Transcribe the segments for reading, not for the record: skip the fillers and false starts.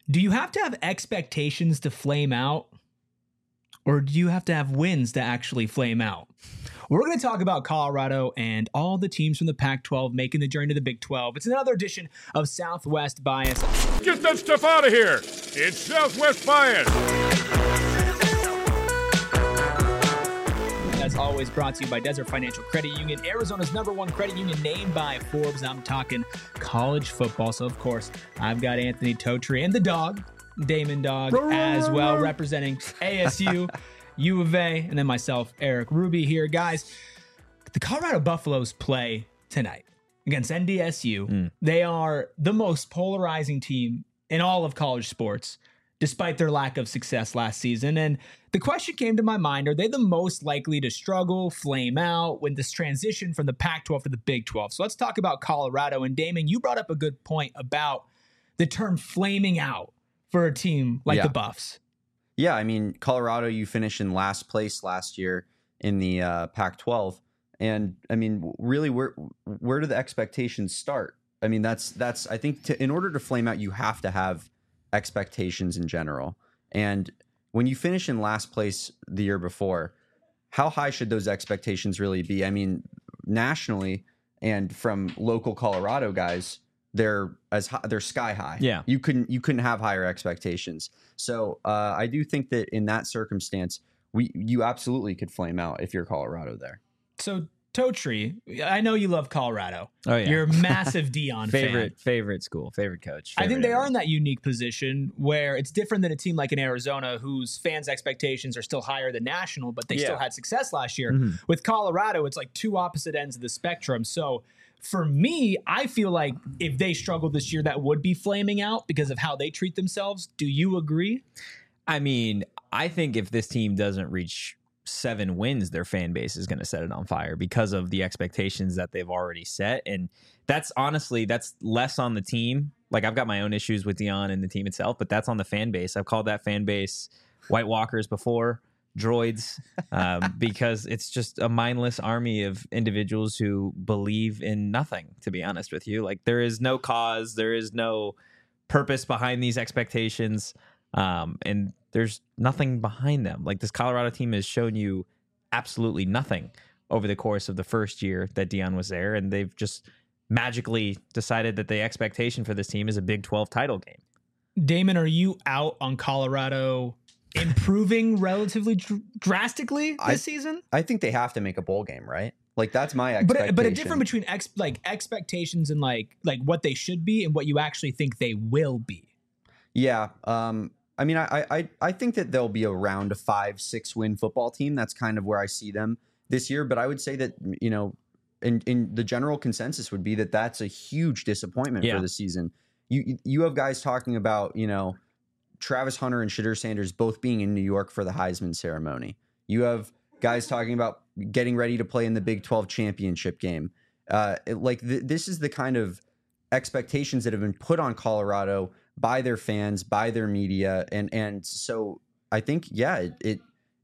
Do you have to have expectations to flame out? Or do you have to have wins to actually flame out? We're going to talk about Colorado and all the teams from the Pac-12 making the journey to the Big 12. It's another edition of Southwest Bias. Get that stuff out of here. It's Southwest Bias. As always, brought to you by Desert Financial Credit Union, Arizona's #1 credit union, named by Forbes. I'm talking college football. So, of course, I've got Anthony Totri and the dog, Damon Dog, as well, representing ASU, U of A, and then myself, Eric Ruby here. Guys, the Colorado Buffaloes play tonight against NDSU. They are the most polarizing team in all of college sports, despite their lack of success last season. And the question came to my mind, are they the most likely to struggle, flame out when this transition from the Pac-12 to the Big 12? So let's talk about Colorado. And Damon, you brought up a good point about the term flaming out for a team like the Buffs. Yeah, I mean, Colorado, you finished in last place last year in the Pac-12. And I mean, really, where do the expectations start? I mean, that's I think in order to flame out, you have to have expectations in general. And when you finish in last place the year before, how high should those expectations really be? I mean, nationally and from local Colorado guys, they're sky high. Yeah, you couldn't have higher expectations. So I do think that in that circumstance, you absolutely could flame out if you're Colorado there. So Totri, I know you love Colorado. Oh yeah, you're a massive Deion fan. Favorite school, favorite coach. I think they are in that unique position where it's different than a team like in Arizona, whose fans' expectations are still higher than national, but they still had success last year. With Colorado, it's like two opposite ends of the spectrum. So for me, I feel like if they struggle this year, that would be flaming out because of how they treat themselves. Do you agree? I mean, I think if this team doesn't reach 7 wins, their fan base is going to set it on fire because of the expectations that they've already set. And that's less on the team. Like, I've got my own issues with Deion and the team itself, but that's on the fan base. I've called that fan base White Walkers before, droids, because it's just a mindless army of individuals who believe in nothing, to be honest with you. Like, there is no cause, there is no purpose behind these expectations. And there's nothing behind them. Like, this Colorado team has shown you absolutely nothing over the course of the first year that Deion was there. And they've just magically decided that the expectation for this team is a Big 12 title game. Damon, are you out on Colorado improving relatively drastically this season? I think they have to make a bowl game, right? Like, that's my expectation. But a difference between expectations and like what they should be and what you actually think they will be. Yeah. I mean, I think that they'll be around a 5-6 win football team. That's kind of where I see them this year. But I would say that, you know, in the general consensus would be that that's a huge disappointment for the season. You have guys talking about, you know, Travis Hunter and Shedeur Sanders both being in New York for the Heisman ceremony. You have guys talking about getting ready to play in the Big 12 championship game. This is the kind of expectations that have been put on Colorado by their fans, by their media, and so I think it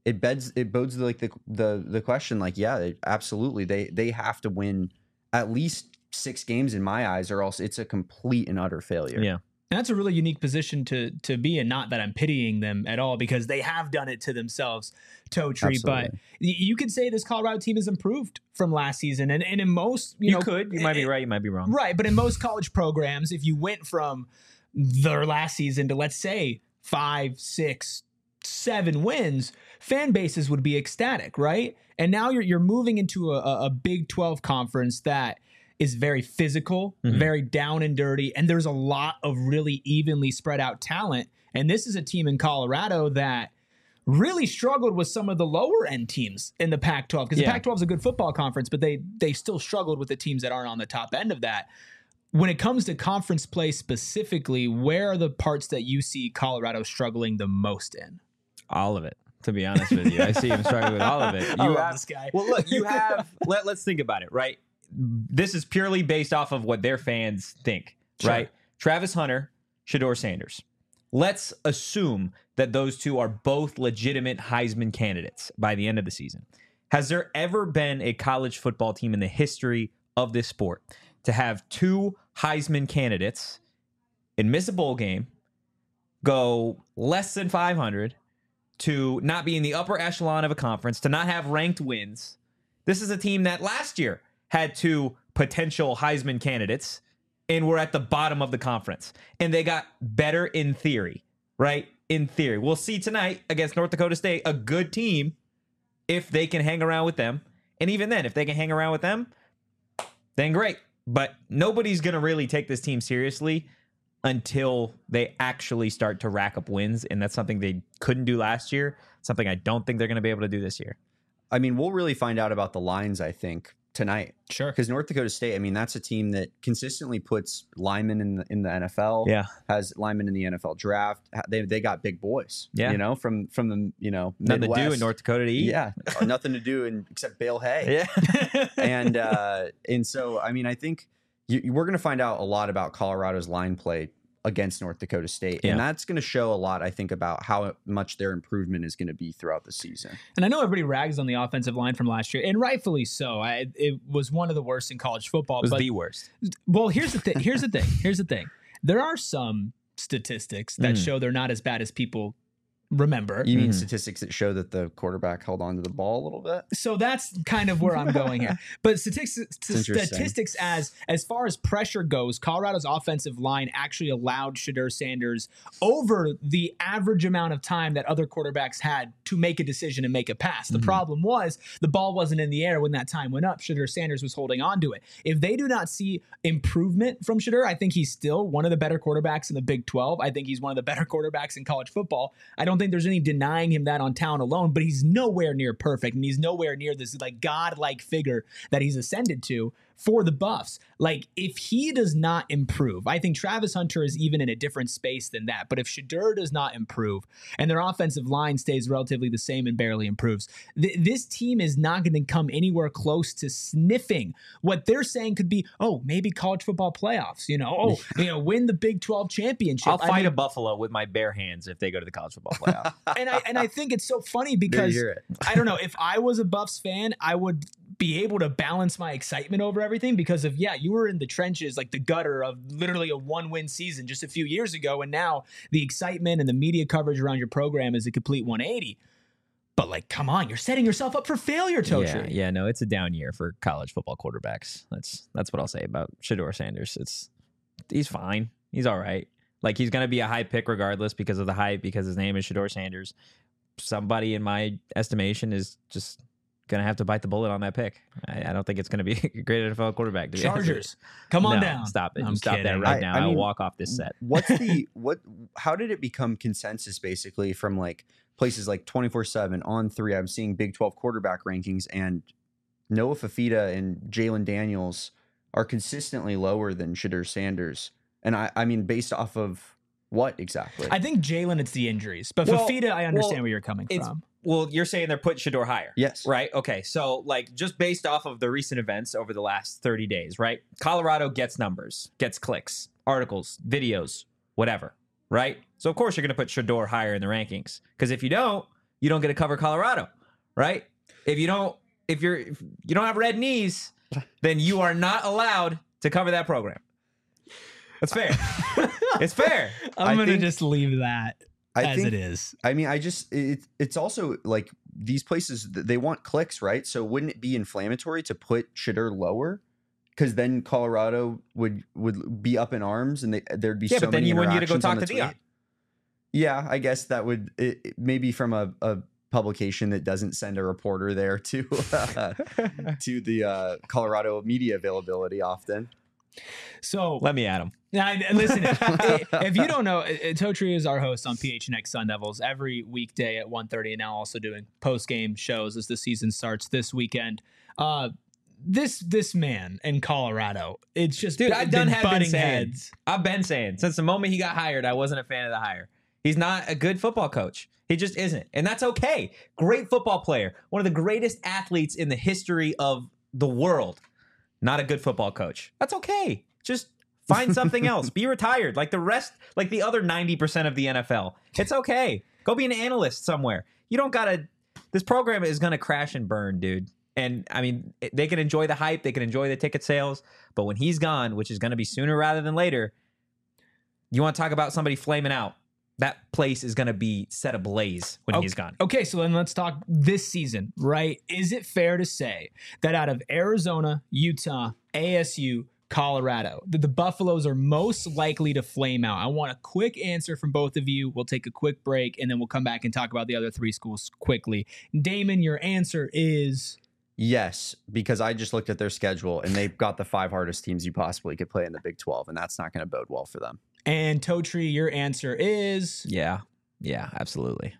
bodes like the question, like absolutely they have to win at least 6 games in my eyes, or else it's a complete and utter failure. Yeah. And that's a really unique position to be in. Not that I'm pitying them at all, because they have done it to themselves, Totri. But you could say this Colorado team has improved from last season. And in most, you might be right, you might be wrong. Right. But in most college programs, if you went from their last season to, let's say, 5, 6, 7 wins, fan bases would be ecstatic, right? And now you're moving into a Big 12 conference that is very physical, very down and dirty, and there's a lot of really evenly spread out talent. And this is a team in Colorado that really struggled with some of the lower end teams in the Pac-12, because the Pac-12 is a good football conference, but they still struggled with the teams that aren't on the top end of that. When it comes to conference play specifically, where are the parts that you see Colorado struggling the most in? All of it, to be honest with you. I see him struggling with all of it. I love this guy. Well, look, you have, let's think about it, right? This is purely based off of what their fans think, right? Travis Hunter, Shedeur Sanders. Let's assume that those two are both legitimate Heisman candidates by the end of the season. Has there ever been a college football team in the history of this sport to have 2 Heisman candidates and miss a bowl game, go less than 500, to not be in the upper echelon of a conference, to not have ranked wins. This is a team that last year had 2 potential Heisman candidates and were at the bottom of the conference. And they got better in theory, right? In theory. We'll see tonight against North Dakota State, a good team, if they can hang around with them. And even then, if they can hang around with them, then great. But nobody's going to really take this team seriously until they actually start to rack up wins. And that's something they couldn't do last year, something I don't think they're going to be able to do this year. I mean, we'll really find out about the lines, I think, tonight. Sure. Because North Dakota State, I mean, that's a team that consistently puts linemen in the NFL. Yeah. Has linemen in the NFL draft. They got big boys. Yeah. You know, from the, Nothing Midwest. to do in North Dakota to eat. Yeah. Nothing to do except bale hay. Yeah. And so, I mean, I think we're going to find out a lot about Colorado's line play against North Dakota State. Yeah. And that's going to show a lot, I think, about how much their improvement is going to be throughout the season. And I know everybody rags on the offensive line from last year, and rightfully so. It was one of the worst in college football. It was the worst. Well, here's the thing. Here's the thing. There are some statistics that show they're not as bad as people remember. You mean statistics that show that the quarterback held on to the ball a little bit? So that's kind of where I'm going here. But statistics as far as pressure goes, Colorado's offensive line actually allowed Shedeur Sanders over the average amount of time that other quarterbacks had to make a decision and make a pass. The problem was the ball wasn't in the air when that time went up. Shedeur Sanders was holding on to it. If they do not see improvement from Shedeur, I think he's still one of the better quarterbacks in the Big 12. I think he's one of the better quarterbacks in college football. I don't think there's any denying him that on talent alone, but he's nowhere near perfect, and he's nowhere near this like godlike figure that he's ascended to for the Buffs. Like, if he does not improve, I think Travis Hunter is even in a different space than that. But if Shedeur does not improve and their offensive line stays relatively the same and barely improves, this team is not going to come anywhere close to sniffing what they're saying could be, maybe college football playoffs, win the Big 12 championship. I'll fight a buffalo with my bare hands if they go to the college football playoff. and I think it's so funny because I don't know, if I was a Buffs fan, I would be able to balance my excitement over everything because of, you were in the trenches, like the gutter of literally a 1-win season just a few years ago. And now the excitement and the media coverage around your program is a complete 180. But like, come on, you're setting yourself up for failure, Totri. Yeah, no, it's a down year for college football quarterbacks. That's what I'll say about Shedeur Sanders. He's fine. He's all right. Like, he's going to be a high pick regardless because of the hype, because his name is Shedeur Sanders. Somebody in my estimation is just going to have to bite the bullet on that pick. I don't think it's going to be a great NFL quarterback. Chargers, come on down. Stop it. I'm You stop kidding. that right now. I I'll mean, walk off this set. How did it become consensus basically from like places like 24/7 on 3? I'm seeing Big 12 quarterback rankings, and Noah Fafita and Jalen Daniels are consistently lower than Shedeur Sanders. And I mean, based off of what exactly? I think Jalen, it's the injuries, but Fafita, I understand where you're coming from. Well, you're saying they're putting Shedeur higher. Yes. Right? Okay. So, like, just based off of the recent events over the last 30 days, right? Colorado gets numbers, gets clicks, articles, videos, whatever, right? So, of course, you're going to put Shedeur higher in the rankings. Because if you don't get to cover Colorado, right? If you don't have red knees, then you are not allowed to cover that program. That's fair. It's fair. I'm going to just leave that as it is. I mean, it's also like these places, they want clicks, right? So wouldn't it be inflammatory to put Shedeur lower? Because then Colorado would be up in arms, and there'd be so but then many you wouldn't get to go interactions on talk the to Deion. tweet. Yeah, I guess that would maybe from a publication that doesn't send a reporter there to the Colorado media availability often. So let me at him. Listen, if you don't know, Totri is our host on PHNX Sun Devils every weekday at 1:30, and now also doing post-game shows as the season starts this weekend. This man in Colorado, it's just I've been butting saying heads. I've been saying since the moment he got hired, I wasn't a fan of the hire. He's not a good football coach. He just isn't, and that's okay. Great football player, one of the greatest athletes in the history of the world. Not a good football coach. That's okay. Just find something else. Be retired like the rest, like the other 90% of the NFL. It's okay. Go be an analyst somewhere. You don't gotta. This program is gonna crash and burn, dude. And I mean, they can enjoy the hype, they can enjoy the ticket sales, but when he's gone, which is gonna be sooner rather than later, you want to talk about somebody flaming out? that place is going to be set ablaze when he's gone. Okay, so then let's talk this season, right? Is it fair to say that out of Arizona, Utah, ASU, Colorado, that the Buffaloes are most likely to flame out? I want a quick answer from both of you. We'll take a quick break, and then we'll come back and talk about the other three schools quickly. Damon, your answer is... Yes, because I just looked at their schedule, and they've got the 5 hardest teams you possibly could play in the Big 12, and that's not going to bode well for them. And Totri, your answer is... Yeah, absolutely.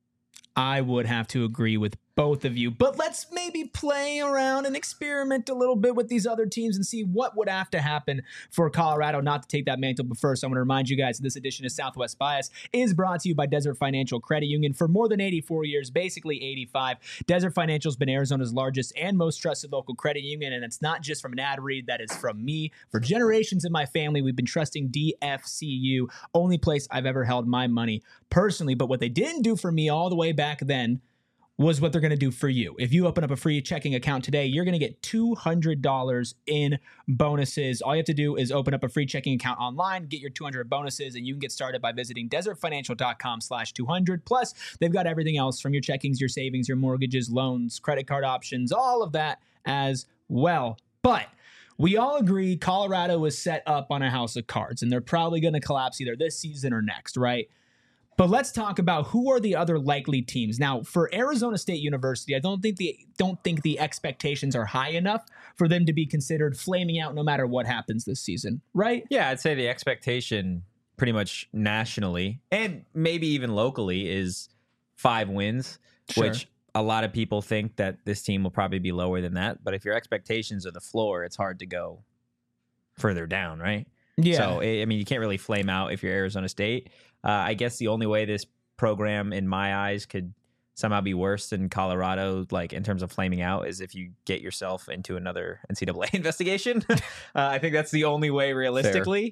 I would have to agree with both of you, but let's maybe play around and experiment a little bit with these other teams and see what would have to happen for Colorado not to take that mantle. But first, I want to remind you guys that this edition of Southwest Bias is brought to you by Desert Financial Credit Union. For more than 84 years, basically 85, Desert Financial has been Arizona's largest and most trusted local credit union, and it's not just from an ad read, that is from me. For generations in my family, we've been trusting DFCU, only place I've ever held my money personally. But what they didn't do for me all the way back then was what they're going to do for you. If you open up a free checking account today, you're going to get $200 in bonuses. All you have to do is open up a free checking account online, get your 200 bonuses, and you can get started by visiting desertfinancial.com/200. Plus, they've got everything else from your checkings, your savings, your mortgages, loans, credit card options, all of that as well. But we all agree Colorado is set up on a house of cards, and they're probably going to collapse either this season or next, right? But let's talk about who are the other likely teams. Now, for Arizona State University, I don't think the expectations are high enough for them to be considered flaming out no matter what happens this season, right? Yeah, I'd say the expectation pretty much nationally and maybe even locally is 5 wins, Sure. which a lot of people think that this team will probably be lower than that. But if your expectations are the floor, it's hard to go further down, right? Yeah. So, I mean, you can't really flame out if you're Arizona State. I guess the only way this program, in my eyes, could somehow be worse than Colorado, like in terms of flaming out, is if you get yourself into another NCAA investigation. I think that's the only way realistically.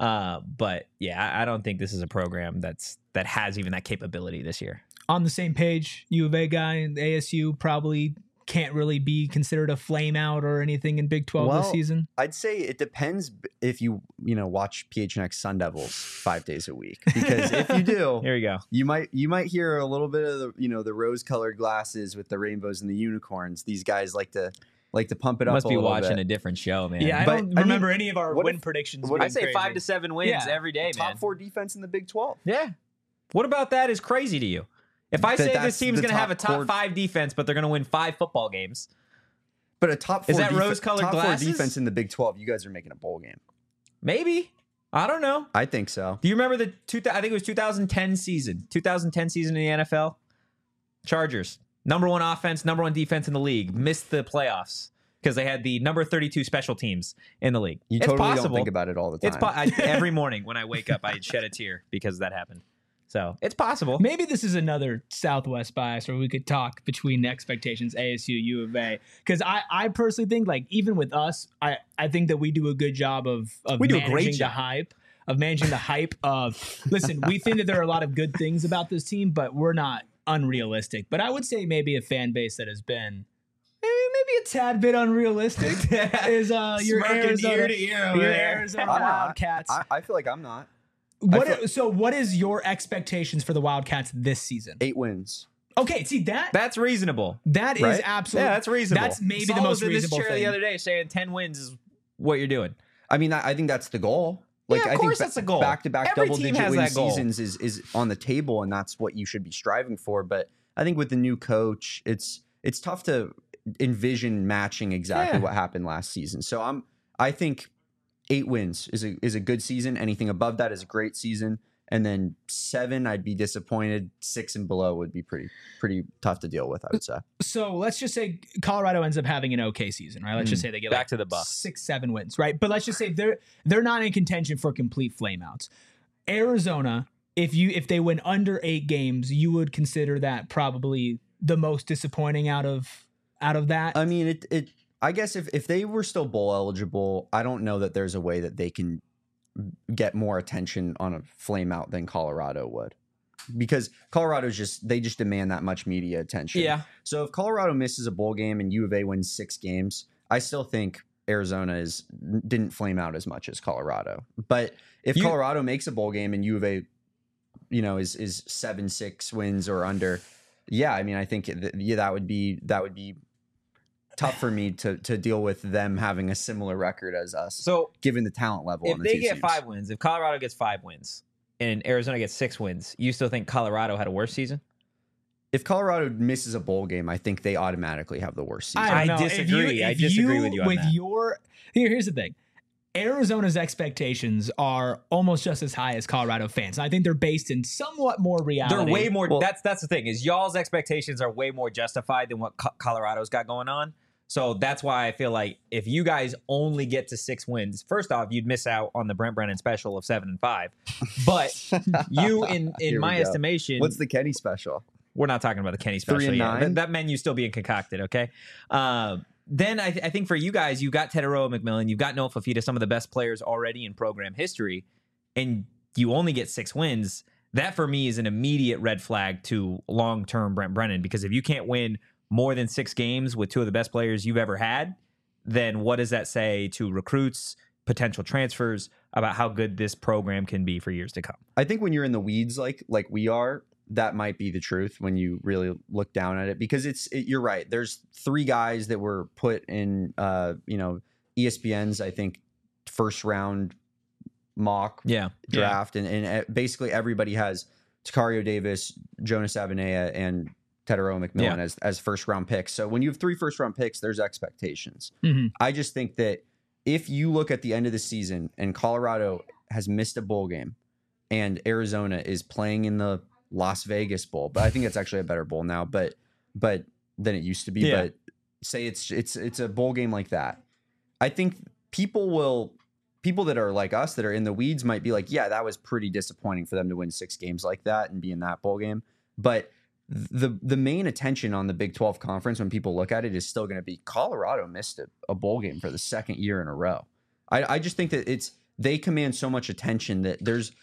But yeah, I don't think this is a program that has even that capability this year. On the same page, U of A guy and ASU probably can't really be considered a flame out or anything in Big 12 this season. I'd say it depends if you watch PHNX Sun Devils 5 days a week, because if you do, Here we go. you might hear a little bit of the rose-colored glasses with the rainbows and the unicorns. These guys like to pump it up. Must be watching bit. a different show, man. Yeah, I But, don't I remember mean, any of our what win if- predictions. what being I'd say crazy. 5 to 7 wins Yeah. every day, man. Top 4 defense in the Big 12. Yeah. What about that is crazy to you? If I say this That's team's the going to have a top top 5 defense, but they're going to win 5 football games. But a top 4 Is that rose-colored top 4 glasses? defense in the Big 12, you guys are making a bowl game. Maybe. I don't know. I think so. Do you remember I think it was 2010 season in the NFL? Chargers, number 1 offense, number 1 defense in the league, missed the playoffs because they had the number 32 special teams in the league. You It's totally possible. don't think about it all the time. Every morning when I wake up, I shed a tear because that happened. So it's possible. Maybe this is another Southwest bias where we could talk between expectations, ASU, U of A. Because I personally think, like, even with us, I think that we do a good job of We do a managing great the job. hype. Of managing the hype of, listen, we think that there are a lot of good things about this team, but we're not unrealistic. But I would say maybe a fan base that has been maybe a tad bit unrealistic is your Smirking Arizona, ear to ear over your there. Arizona I'm not. Wildcats. I feel like I'm not. So what is your expectations for the Wildcats this season? 8 wins. Okay, see that That's reasonable. that is Right? absolutely Yeah, that's reasonable. That's maybe Saul the most was in this reasonable chair thing. the other day saying 10 wins is what you're doing. I mean, I think that's the goal. Yeah, of I course think that's the goal. Back-to-back Every team double-digit has win that goal. seasons is on the table, and that's what you should be striving for. But I think with the new coach, it's tough to envision matching exactly Yeah. what happened last season. So I think 8 wins is a good season. Anything above that is a great season. And then 7, I'd be disappointed. 6 and below would be pretty tough to deal with, I would say. So let's just say Colorado ends up having an okay season, right? Let's just say they get Back like to the Buffs. 6-7 wins, right? But let's just say they're not in contention for complete flameouts. Arizona, if they win under 8 games, you would consider that probably the most disappointing out of that. I mean, I guess if they were still bowl eligible, I don't know that there's a way that they can get more attention on a flame out than Colorado would, because Colorado's just demand that much media attention. Yeah. So if Colorado misses a bowl game and U of A wins 6 games, I still think Arizona didn't flame out as much as Colorado. But if Colorado makes a bowl game and U of A is 7-6 wins or under. Yeah, I mean, I think that would be tough for me to deal with them having a similar record as us. So given the talent level, if they get 5 wins, if Colorado gets 5 wins and Arizona gets 6 wins, you still think Colorado had a worse season? If Colorado misses a bowl game, I think they automatically have the worst season. I don't know. disagree. I disagree with you on that. Here's the thing. Arizona's expectations are almost just as high as Colorado fans. I think they're based in somewhat more reality. They're way more. Well, that's the thing, is y'all's expectations are way more justified than what Colorado's got going on. So that's why I feel like if you guys only get to 6 wins, first off, you'd miss out on the Brent Brennan special of 7-5. But you, in my estimation, what's the Kenny special? We're not talking about the Kenny special yet. That menu's still being concocted, okay? Then I think for you guys, you got Teteroa McMillan, you've got Noah Fafita, some of the best players already in program history, and you only get 6 wins. That for me is an immediate red flag to long-term Brent Brennan, because if you can't win more than 6 games with 2 of the best players you've ever had, then what does that say to recruits, potential transfers, about how good this program can be for years to come? I think when you're in the weeds like we are, that might be the truth when you really look down at it, because you're right. There's 3 guys that were put in, ESPN's, I think, first round mock draft. And basically everybody has Takario Davis, Jonas Avenea, and Teteroa McMillan as first round picks. So when you have 3 first round picks, there's expectations. Mm-hmm. I just think that if you look at the end of the season and Colorado has missed a bowl game and Arizona is playing in the Las Vegas Bowl, but I think it's actually a better bowl now, but than it used to be. Yeah. But say it's a bowl game like that, I think people that are like us that are in the weeds might be like, yeah, that was pretty disappointing for them to win 6 games like that and be in that bowl game. But the main attention on the Big 12 conference when people look at it is still going to be Colorado missed a bowl game for the 2nd year in a row. I just think that they command so much attention that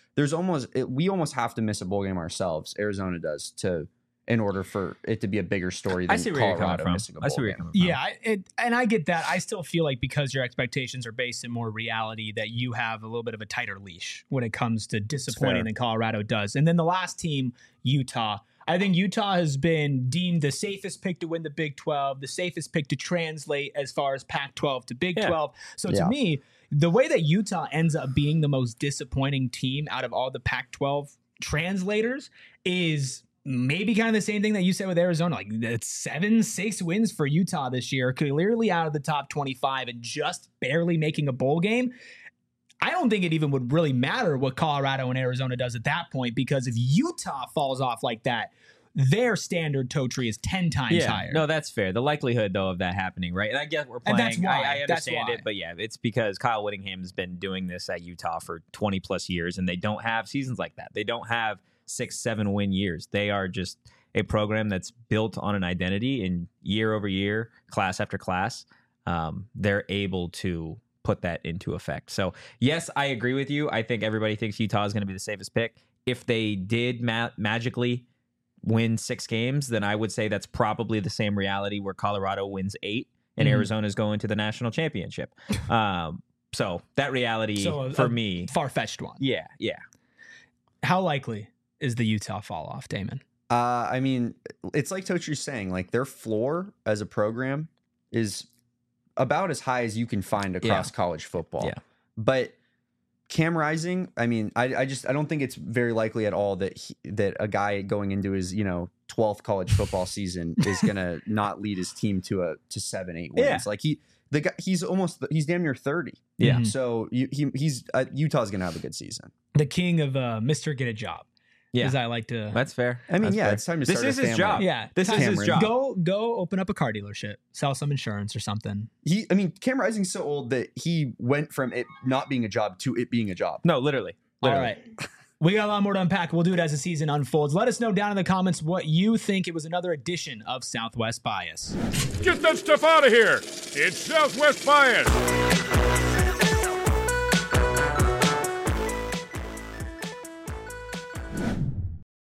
we almost have to miss a bowl game ourselves. Arizona does in order for it to be a bigger story than Colorado missing a bowl game. Yeah, and I get that. I still feel like because your expectations are based in more reality, that you have a little bit of a tighter leash when it comes to disappointing than Colorado does. And then the last team, Utah. I think Utah has been deemed the safest pick to win the Big 12, the safest pick to translate as far as Pac-12 to Big 12. So to me, the way that Utah ends up being the most disappointing team out of all the Pac-12 translators is maybe kind of the same thing that you said with Arizona. Like, that's 7-6 wins for Utah this year, clearly out of the top 25 and just barely making a bowl game. I don't think it even would really matter what Colorado and Arizona does at that point, because if Utah falls off like that, their standard Totri is 10 times higher. No, that's fair. The likelihood, though, of that happening, right? And I guess we're playing. And that's why. I understand it, but yeah, it's because Kyle Whittingham's been doing this at Utah for 20 plus years, and they don't have seasons like that. They don't have 6-7 win years. They are just a program that's built on an identity, and year over year, class after class, they're able to put that into effect. So yes, I agree with you. I think everybody thinks Utah is going to be the safest pick. If they did magically win 6 games, then I would say that's probably the same reality where Colorado wins 8 and Arizona's going to the national championship. So that reality for me, far-fetched one. Yeah. How likely is the Utah fall off, Damon? I mean, it's like Totri's saying, like, their floor as a program is about as high as you can find across college football. Yeah. But Cam Rising, I mean, I don't think it's very likely at all that a guy going into his 12th college football season is gonna not lead his team to 7-8 wins. Yeah. Like he's damn near 30. Yeah. So he's Utah's gonna have a good season. The king of Mr. Get a Job. Yeah, as I like to. That's fair. I mean, That's fair. it's time to start. This is his family. job. Yeah, this is his job. Go open up a car dealership, sell some insurance or something. Cam Rising's so old that he went from it not being a job to it being a job. No, literally. All right. We got a lot more to unpack. We'll do it as the season unfolds. Let us know down in the comments what you think. It was another edition of Southwest Bias. Get that stuff out of here. It's Southwest Bias.